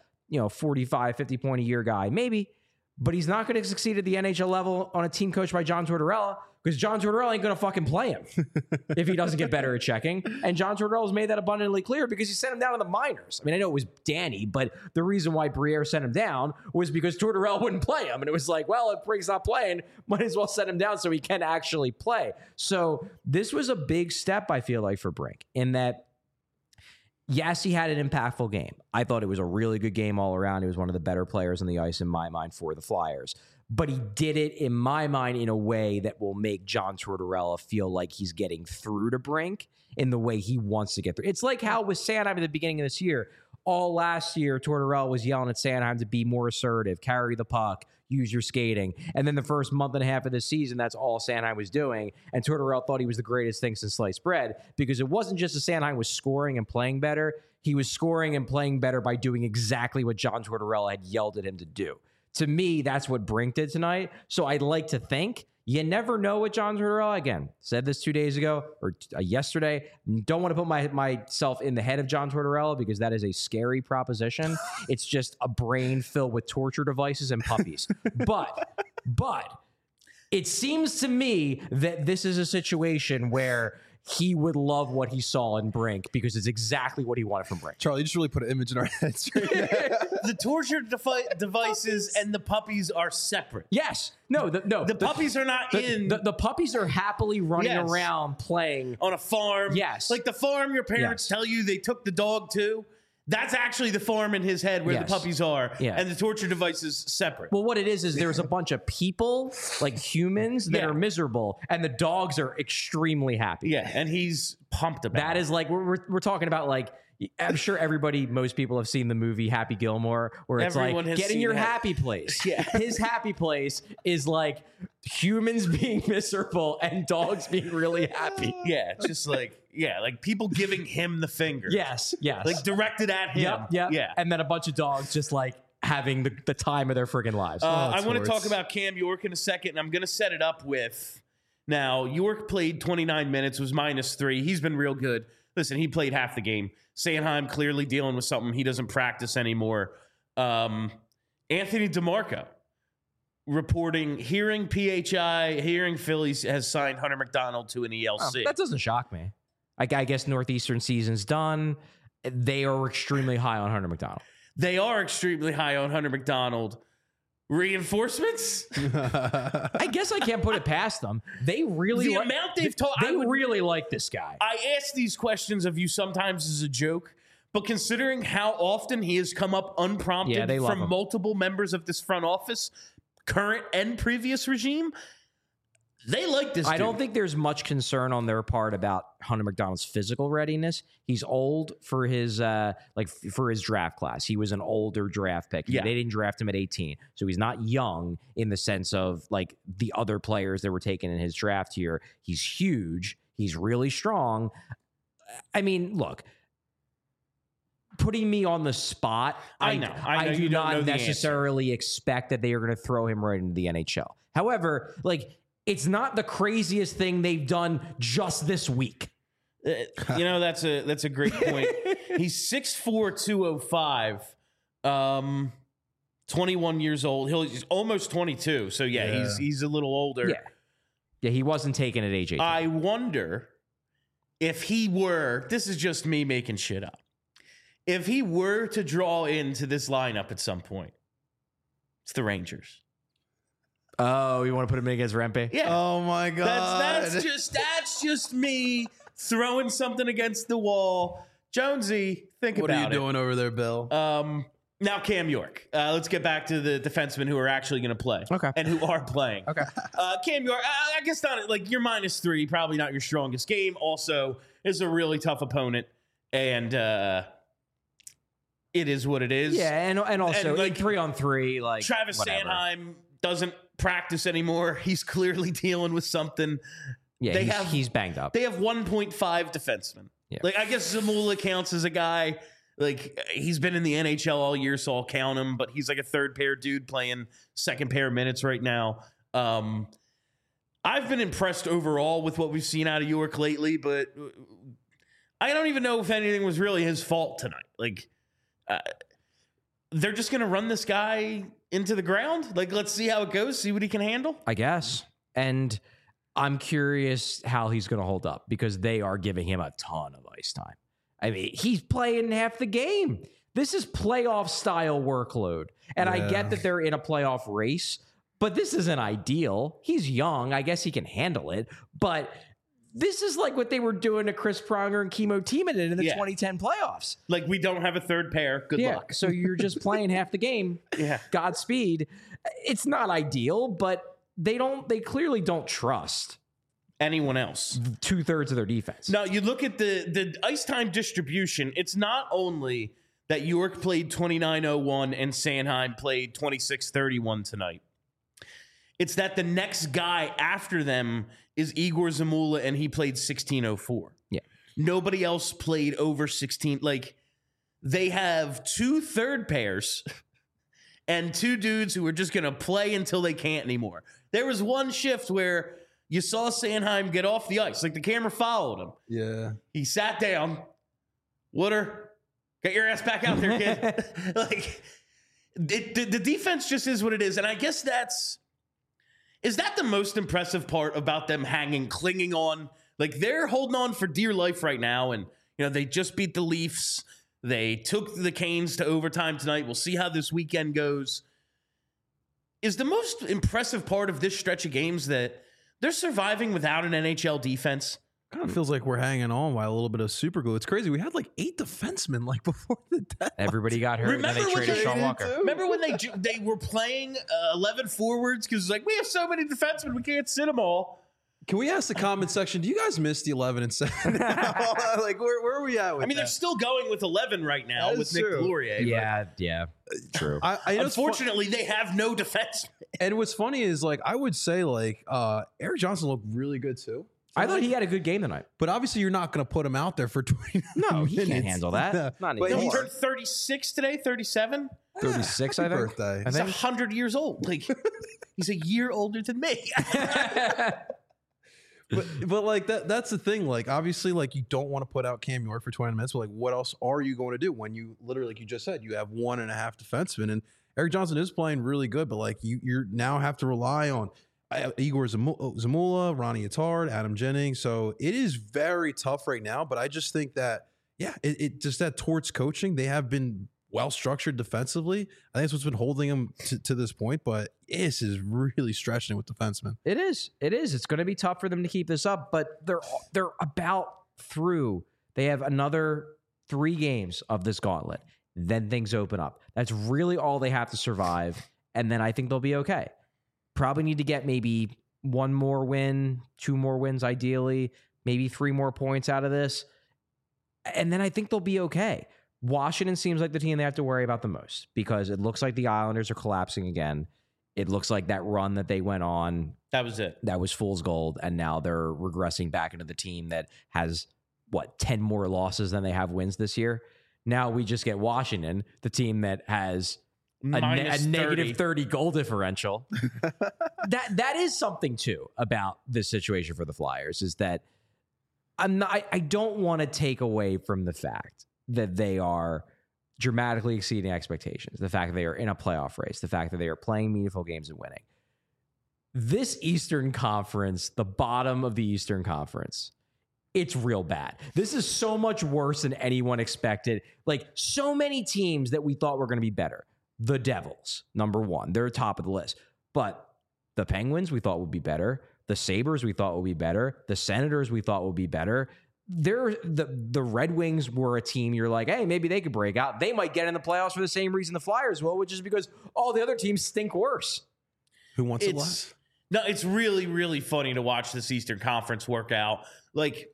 45, 50 point a year guy, maybe. But he's not going to succeed at the NHL level on a team coached by John Tortorella, because John Tortorella ain't going to fucking play him if he doesn't get better at checking. And John Tortorella's made that abundantly clear, because he sent him down to the minors. I mean, I know it was Danny, but the reason why Briere sent him down was because Tortorella wouldn't play him. And it was like, well, if Brink's not playing, might as well send him down so he can actually play. So this was a big step, I feel like, for Brink, in that, yes, he had an impactful game. I thought it was a really good game all around. He was one of the better players on the ice in my mind for the Flyers. But he did it, in my mind, in a way that will make John Tortorella feel like he's getting through to Brink in the way he wants to get through. It's like how with Sanheim at the beginning of this year, all last year, Tortorella was yelling at Sanheim to be more assertive, carry the puck, use your skating. And then the first month and a half of the season, that's all Sanheim was doing. And Tortorella thought he was the greatest thing since sliced bread, because it wasn't just that Sanheim was scoring and playing better. He was scoring and playing better by doing exactly what John Tortorella had yelled at him to do. To me, that's what Brink did tonight. So I'd like to think, you never know with John Tortorella. Again, said this 2 days ago or yesterday. Don't want to put myself in the head of John Tortorella, because that is a scary proposition. It's just a brain filled with torture devices and puppies. But it seems to me that this is a situation where he would love what he saw in Brink, because it's exactly what he wanted from Brink. Charlie, you just really put an image in our heads. The torture devices and the puppies are separate. Yes. The puppies are not in. The puppies are happily running around playing. On a farm. Yes. Like the farm your parents tell you they took the dog to. That's actually the farm in his head where the puppies are, and the torture device is separate. Well, what it is there's a bunch of people, like humans, that are miserable, and the dogs are extremely happy. Yeah, and he's pumped about that. Is like, we're talking about, like, I'm sure most people have seen the movie Happy Gilmore, where it's Everyone like, get in your happy place. Yeah. His happy place is like humans being miserable and dogs being really happy. Yeah, it's just like, like people giving him the finger. Yes. Like directed at him. Yep. Yeah. And then a bunch of dogs just like having the time of their friggin' lives. I want to talk about Cam York in a second, and I'm going to set it up with, now, York played 29 minutes, was -3. He's been real good. Listen, he played half the game. Sanheim clearly dealing with something. He doesn't practice anymore. Anthony DeMarco reporting, hearing PHI, hearing Phillies has signed Hunter McDonald to an ELC. That doesn't shock me. I guess Northeastern season's done. They are extremely high on Hunter McDonald. They are extremely high on Hunter McDonald. Reinforcements? I guess I can't put it past them. They really The amount they've talked. They really like this guy. I ask these questions of you sometimes as a joke, but considering how often he has come up unprompted Yeah, they love from him. multiple members of this front office, current and previous regime, they like this I dude. don't think there's much concern on their part about Hunter McDonald's physical readiness. He's old for his for his draft class. He was an older draft pick. Yeah. They didn't draft him at 18. So he's not young in the sense of like the other players that were taken in his draft here. He's huge. He's really strong. I mean, look, putting me on the spot, I know I do you don't know not the necessarily expect that they are going to throw him right into the NHL. However, like, it's not the craziest thing they've done just this week. That's a great point. He's 6'4", 205, 21 years old. He's almost 22. So yeah. he's a little older. Yeah, he wasn't taken at age 18. I wonder if he were, this is just me making shit up, if he were to draw into this lineup at some point, it's the Rangers. Oh, you want to put him in against Rempe? Yeah. Oh my god. That's just me throwing something against the wall. Jonesy, think What about it. are you doing over there, Bill? Now Cam York. Let's get back to the defensemen who are actually going to play. Okay. And who are playing. Okay. Cam York, I guess not, like, you're -3, probably not your strongest game. Also, is a really tough opponent. And it is what it is. Yeah, and also And, like, 3-on-3, like Travis whatever. Sanheim doesn't practice anymore. He's clearly dealing with something. Yeah, he's banged up. They have 1.5 defensemen. Yeah. Like, I guess Zamula counts as a guy. Like, he's been in the NHL all year, so I'll count him. But he's like a third pair dude playing second pair minutes right now. I've been impressed overall with what we've seen out of York lately, but I don't even know if anything was really his fault tonight. Like, they're just going to run this guy into the ground. Like, let's see how it goes, see what he can handle. I guess. And I'm curious how he's going to hold up because they are giving him a ton of ice time. I mean, he's playing half the game. This is playoff style workload. And I get that they're in a playoff race, but this isn't ideal. He's young. I guess he can handle it. But this is like what they were doing to Chris Pronger and Kimo Timonen in the 2010 playoffs. Like, we don't have a third pair. Good luck. So you're just playing half the game. Yeah. Godspeed. It's not ideal, but they clearly don't trust Anyone else. 2/3 of their defense. Now, you look at the ice time distribution. It's not only that York played 29:01 and Sanheim played 26:31 tonight. It's that the next guy after them is Igor Zamula, and he played 16:04. Yeah. Nobody else played over 16. Like, they have 2 third pairs and 2 dudes who are just going to play until they can't anymore. There was one shift where you saw Sanheim get off the ice. Like, the camera followed him. Yeah. He sat down. Wooder, get your ass back out there, kid. Like, the defense just is what it is. And I guess is that the most impressive part about them clinging on? Like, they're holding on for dear life right now. And, they just beat the Leafs. They took the Canes to overtime tonight. We'll see how this weekend goes. Is the most impressive part of this stretch of games that they're surviving without an NHL defense? Kind of feels like we're hanging on by a little bit of super glue. It's crazy. We had like 8 defensemen like before the deadline. Everybody got hurt, and then they traded Sean Walker. Remember when they were playing 11 forwards because we have so many defensemen, we can't sit them all. Can we ask the comment section? Do you guys miss the 11 and 7? Like, where are we at with they're still going with 11 right now with Nick Delorier. Yeah, true. Unfortunately, they have no defense. And what's funny is, like, I would say, like, Eric Johnson looked really good too. I thought he had a good game tonight. But obviously, you're not going to put him out there for 20 No, he minutes. can't handle that. Not But He anymore. turned 36 today, 37 36, I Happy think. birthday. I He's think. 100 years old. Like, he's a year older than me. But like that's the thing. Like, obviously, like, you don't want to put out Cam York for 20 minutes. But like, what else are you going to do when you literally, like you just said, you have 1.5 defensemen, and Eric Johnson is playing really good. But like, you now have to rely on Igor Zamula, Ronnie Attard, Adam Jennings. So it is very tough right now. But I just think that it just that towards coaching, they have been well structured defensively. I think that's what's been holding them to this point. But this is really stretching it with defensemen. It is. It's going to be tough for them to keep this up, but they're about through. They have another 3 games of this gauntlet. Then things open up. That's really all they have to survive, and then I think they'll be okay. Probably need to get maybe 1 more win, 2 more wins ideally, maybe 3 more points out of this, and then I think they'll be okay. Washington seems like the team they have to worry about the most because it looks like the Islanders are collapsing again. It looks like that run that they went on, That was it. that was fool's gold, and now they're regressing back into the team that has, 10 more losses than they have wins this year. Now we just get Washington, the team that has a negative 30 goal differential. That is something too about this situation for the Flyers, is that I don't want to take away from the fact that they are dramatically exceeding expectations, the fact that they are in a playoff race, the fact that they are playing meaningful games and winning. This Eastern Conference, the bottom of the Eastern Conference, it's real bad. This is so much worse than anyone expected. Like, so many teams that we thought were going to be better. The Devils, number 1. They're top of the list. But the Penguins we thought would be better. The Sabres we thought would be better. The Senators we thought would be better. The Red Wings were a team you're like, hey, maybe they could break out. They might get in the playoffs for the same reason the Flyers will, which is because all the other teams stink worse. Who wants it less? No, it's really, really funny to watch this Eastern Conference work out. Like,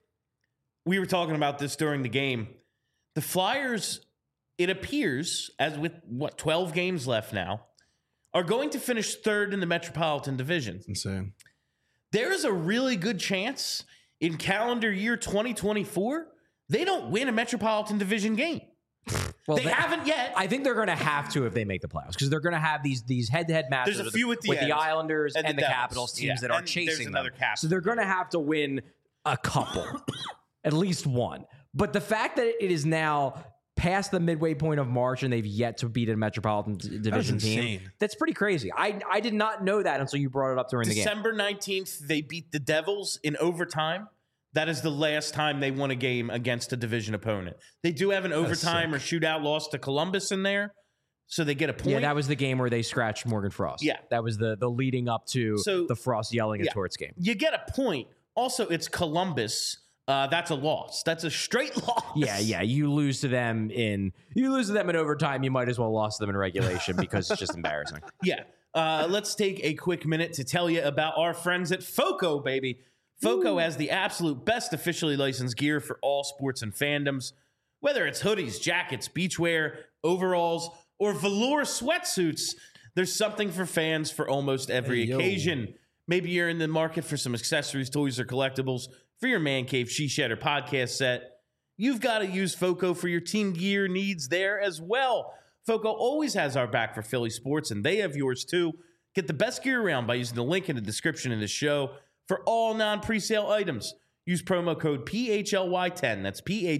we were talking about this during the game. The Flyers, it appears, as with 12 games left now, are going to finish 3rd in the Metropolitan Division. Insane. There is a really good chance in calendar year 2024 they don't win a Metropolitan Division game. Well, they haven't yet. I think they're going to have to if they make the playoffs, because they're going to have these head-to-head matches. There's a few with with the Islanders and the Devils. Capitals, teams that are chasing them. Capitals. So they're going to have to win a couple, at least one. But the fact that it is now past the midway point of March and they've yet to beat a Metropolitan Division team, that's pretty crazy. I did not know that until you brought it up during the game. December 19th, they beat the Devils in overtime. That is the last time they won a game against a division opponent. They do have an overtime or shootout loss to Columbus in there, so they get a point. Yeah, that was the game where they scratched Morgan Frost. Yeah. That was the leading up to the Frost yelling at Torts game. You get a point. Also, it's Columbus. That's a loss. That's a straight loss. Yeah. You lose to them in overtime. You might as well lost them in regulation because it's just embarrassing. Yeah. Let's take a quick minute to tell you about our friends at FOCO, baby. FOCO has the absolute best officially licensed gear for all sports and fandoms. Whether it's hoodies, jackets, beachwear, overalls, or velour sweatsuits, there's something for fans for almost every occasion. Maybe you're in the market for some accessories, toys, or collectibles for your man cave, she shed, or podcast set. You've got to use FOCO for your team gear needs there as well. FOCO always has our back for Philly sports, and they have yours too. Get the best gear around by using the link in the description of the show. For all non-presale items, use promo code PHLY10, that's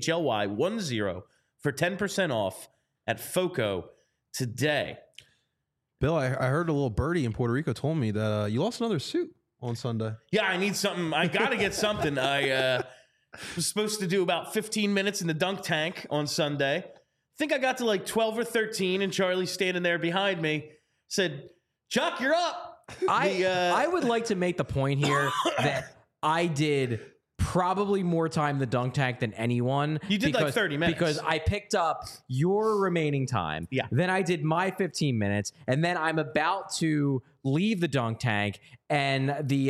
PHLY10, for 10% off at FOCO today. Bill, I heard a little birdie in Puerto Rico told me that you lost another suit on Sunday. Yeah, I need something. I got to get something. I was supposed to do about 15 minutes in the dunk tank on Sunday. I think I got to like 12 or 13, and Charlie standing there behind me said, Chuck, you're up. I would like to make the point here that I did probably more time in the dunk tank than anyone. You did like 30 minutes. Because I picked up your remaining time. Yeah. Then I did my 15 minutes. And then I'm about to leave the dunk tank. And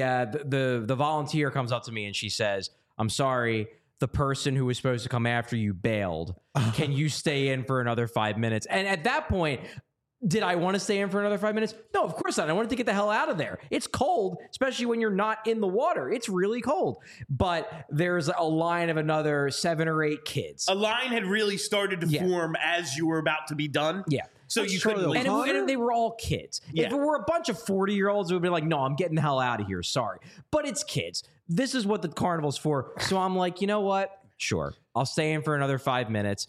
the volunteer comes up to me and she says, I'm sorry, the person who was supposed to come after you bailed. Can you stay in for another 5 minutes? And at that point, did I want to stay in for another 5 minutes? No, of course not. I wanted to get the hell out of there. It's cold, especially when you're not in the water. It's really cold. But there's a line of another 7 or 8 kids. A line had really started to form as you were about to be done. Yeah. So you couldn't leave. And they were all kids. Yeah. If it were a bunch of 40-year-olds, it would be like, no, I'm getting the hell out of here. Sorry. But it's kids. This is what the carnival's for. So I'm like, you know what? Sure. I'll stay in for another 5 minutes.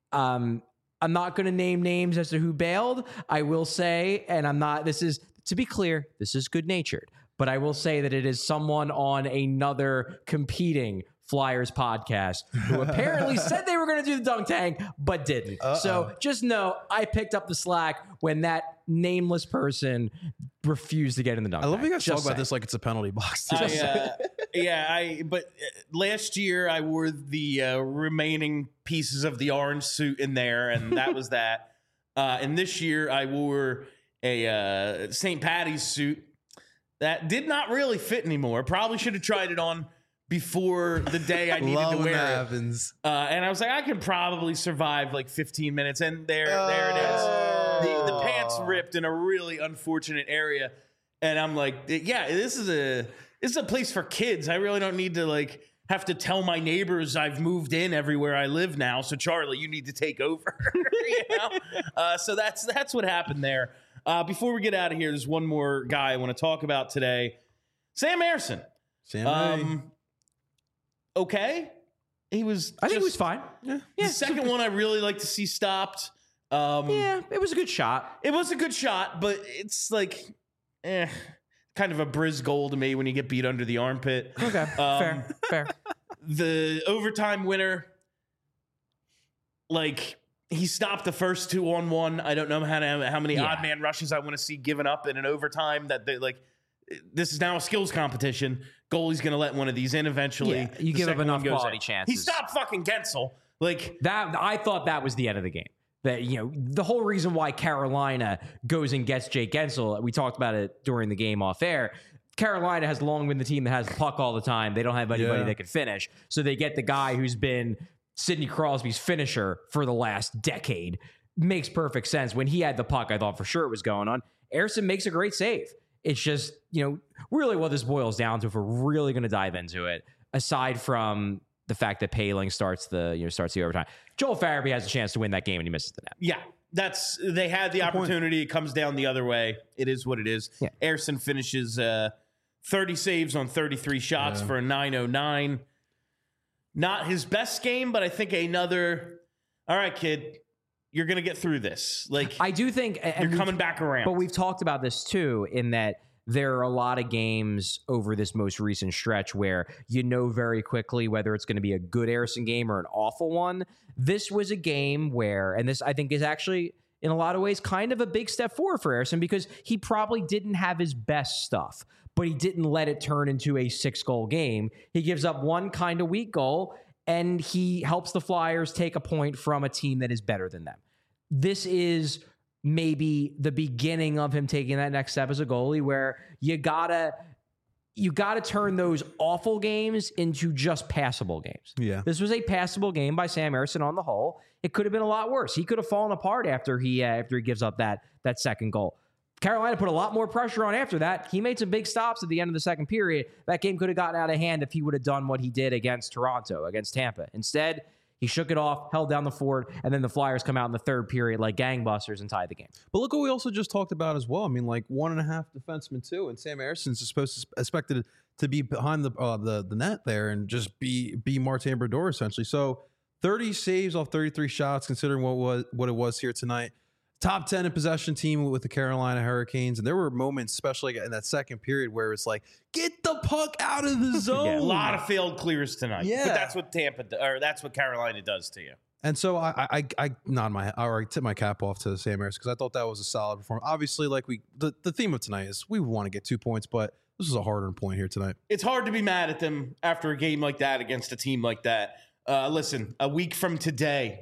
I'm not going to name names as to who bailed. I will say, and I'm not, this is, to be clear, this is good-natured. But I will say that it is someone on another competing Flyers podcast, who apparently said they were going to do the dunk tank, but didn't. So just know I picked up the slack when that nameless person refused to get in the dunk tank. I love you guys Just talk about saying. this like it's a penalty box. But last year I wore the remaining pieces of the orange suit in there, and that was that. And this year I wore a St. Patty's suit that did not really fit anymore. Probably should have tried it on before the day I needed to wear it. Happens. And I was like, I can probably survive like 15 minutes. And there it is. The pants ripped in a really unfortunate area. And I'm like, yeah, this is a place for kids. I really don't need to like have to tell my neighbors I've moved in everywhere I live now. So Charlie, you need to take over. So that's what happened there. Before we get out of here, there's one more guy I want to talk about today. Sam Ersson. Okay. I think he was fine. Yeah. The second one I really like to see stopped. It was a good shot. It was a good shot, but it's like, kind of a Briz goal to me when you get beat under the armpit. Okay, fair. The overtime winner, like, he stopped the first 2-on-1. I don't know how many odd man rushes I want to see given up in an overtime. That they like. This is now a skills competition. Goalie's going to let one of these in eventually. Yeah, you give up enough quality chances. He stopped fucking Gensel. Like that, I thought that was the end of the game. That, the whole reason why Carolina goes and gets Jake Gensel, we talked about it during the game off air. Carolina has long been the team that has the puck all the time. They don't have anybody that can finish. So they get the guy who's been Sidney Crosby's finisher for the last decade. Makes perfect sense. When he had the puck, I thought for sure it was going on. Ersson makes a great save. It's just, really what this boils down to, if we're really going to dive into it, aside from the fact that Poehling starts the overtime, Joel Farabee has a chance to win that game and he misses the net. Yeah, they had the opportunity. It comes down the other way. It is what it is. Yeah. Ersson finishes 30 saves on 33 shots for a 909. Not his best game, but I think another, all right, kid, you're going to get through this. Like, I do think you're coming back around. But we've talked about this too, in that there are a lot of games over this most recent stretch where very quickly whether it's going to be a good Ersson game or an awful one. This was a game where, and this I think is actually in a lot of ways kind of a big step forward for Ersson, because he probably didn't have his best stuff, but he didn't let it turn into a 6-goal game. He gives up one kind of weak goal, and he helps the Flyers take a point from a team that is better than them. This is maybe the beginning of him taking that next step as a goalie, where you gotta turn those awful games into just passable games. Yeah. This was a passable game by Sam Ersson on the whole. It could have been a lot worse. He could have fallen apart after he gives up that second goal. Carolina put a lot more pressure on after that. He made some big stops at the end of the second period. That game could have gotten out of hand if he would have done what he did against Toronto, against Tampa. Instead, he shook it off, held down the fort, and then the Flyers come out in the third period like gangbusters and tie the game. But look what we also just talked about as well. I mean, like 1.5 defensemen too, and Sam Ersson's expected to be behind the net there and just be Martin Brodeur essentially. So 30 saves off 33 shots, considering what it was here tonight. Top 10 in possession team with the Carolina Hurricanes. And there were moments, especially in that second period, where it's like, get the puck out of the zone. A lot of failed clears tonight. Yeah. But that's what that's what Carolina does to you. And so I tip my cap off to Sam Ersson, because I thought that was a solid performance. Obviously, like the theme of tonight is we want to get 2 points, but this is a hard-earned point here tonight. It's hard to be mad at them after a game like that against a team like that. Listen, 1 week from today,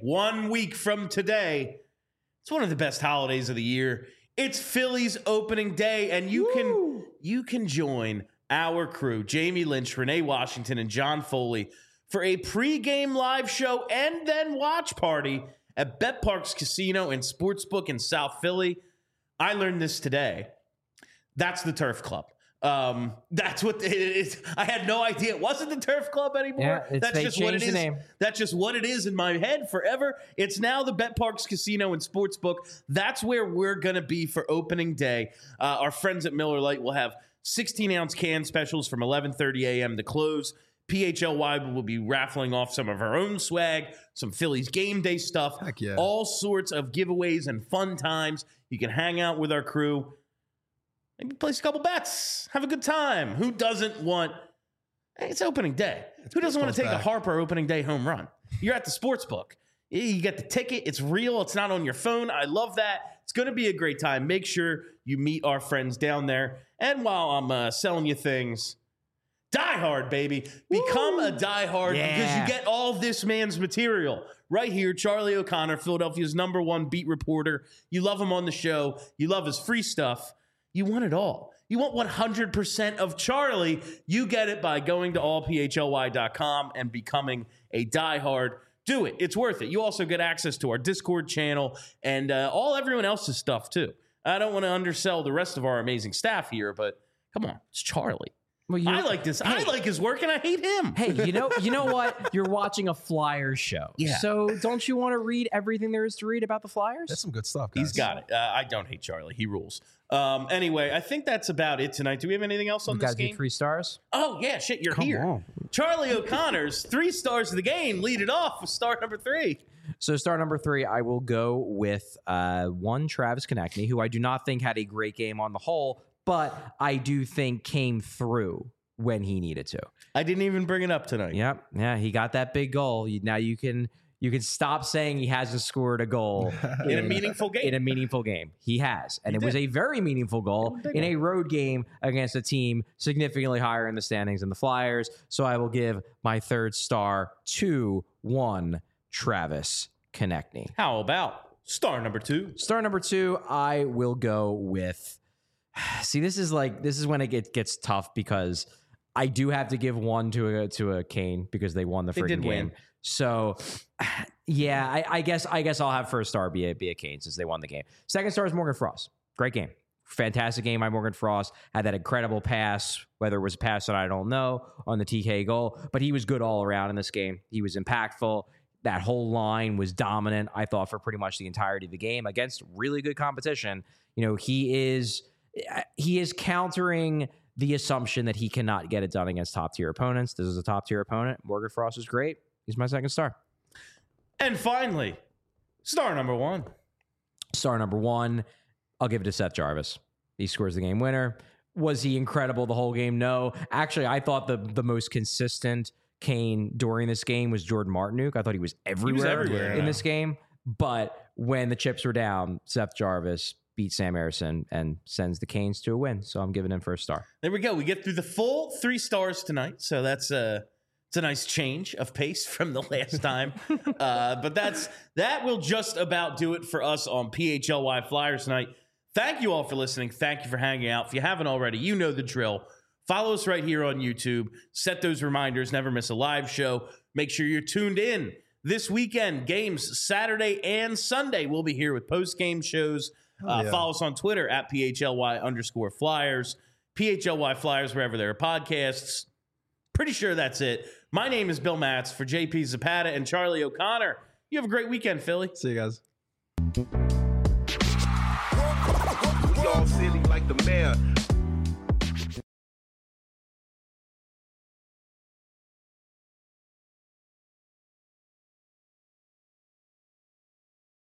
it's one of the best holidays of the year. It's Phillies opening day, and you can join our crew, Jamie Lynch, Renee Washington, and John Foley, for a pregame live show and then watch party at Bet Parks Casino and Sportsbook in South Philly. I learned this today. That's the Turf Club. That's what it is. I had no idea it wasn't the Turf Club anymore. Yeah, that's just what it is. Name. That's just what it is in my head forever. It's now the Bet Parks Casino and Sportsbook. That's where we're going to be for opening day. Our friends at Miller Lite will have 16-ounce can specials from 11:30 a.m. to close. PHLY will be raffling off some of our own swag, some Phillies game day stuff, all sorts of giveaways and fun times. You can hang out with our crew. Maybe place a couple bets. Have a good time. Who doesn't want It's opening day. Who doesn't want to take a Harper opening day home run? You're at the sports book. You get the ticket. It's real. It's not on your phone. I love that. It's going to be a great time. Make sure you meet our friends down there. And while I'm selling you things, Die Hard, baby. Become a Die Hard because you get all this man's material. Right here, Charlie O'Connor, Philadelphia's #1 beat reporter. You love him on the show. You love his free stuff. You want it all. You want 100% of Charlie. You get it by going to allphly.com and becoming a Die Hard. Do it. It's worth it. You also get access to our Discord channel and everyone else's stuff, too. I don't want to undersell the rest of our amazing staff here, but come on. It's Charlie. Well, I like this. Hey, I like his work, and I hate him. Hey, you know what? You're watching a Flyers show. Yeah. So don't you want to read everything there is to read about the Flyers? That's some good stuff, guys. He's got it. I don't hate Charlie. He rules. Anyway, I think that's about it tonight. Do we have anything else on this game? You guys do 3 stars? Oh, yeah. Shit, you're here. On. Charlie O'Connor's 3 stars of the game. Lead it off with star number 3. So star number 3, I will go with one Travis Konechny, who I do not think had a great game on the whole, but I do think came through when he needed to. I didn't even bring it up tonight. Yep. Yeah, he got that big goal. Now you can stop saying he hasn't scored a goal in a meaningful game. In a meaningful game. He has. And it was a very meaningful goal in a road game against a team significantly higher in the standings than the Flyers. So I will give my 3rd star to one Travis Konechny. How about star number 2? Star number 2, I will go with... See, this is when it gets tough because I do have to give one to a Kane because they won the freaking game. Win. So, yeah, I guess I'll have 1st star be a Kane since they won the game. 2nd star is Morgan Frost. Great game. Fantastic game by Morgan Frost. Had that incredible pass, whether it was a pass or I don't know, on the TK goal. But he was good all around in this game. He was impactful. That whole line was dominant, I thought, for pretty much the entirety of the game against really good competition. You know, he is countering the assumption that he cannot get it done against top-tier opponents. This is a top-tier opponent. Morgan Frost is great. He's my 2nd star. And finally, star number 1. Star number 1, I'll give it to Seth Jarvis. He scores the game winner. Was he incredible the whole game? No. Actually, I thought the most consistent Kane during this game was Jordan Martinook. I thought he was everywhere in this game. But when the chips were down, Seth Jarvis beat Sam Harrison and sends the Canes to a win. So I'm giving him 1st star. There we go. We get through the full 3 stars tonight. So it's a nice change of pace from the last time. But that will just about do it for us on PHLY Flyers tonight. Thank you all for listening. Thank you for hanging out. If you haven't already, you know the drill. Follow us right here on YouTube. Set those reminders. Never miss a live show. Make sure you're tuned in. This weekend, games Saturday and Sunday. We'll be here with post-game shows. Follow us on Twitter at PHLY_Flyers. PHLY Flyers, wherever there are podcasts. Pretty sure that's it. My name is Bill Matz for JP Zapata and Charlie O'Connor. You have a great weekend, Philly. See you guys. We all silly like the mayor.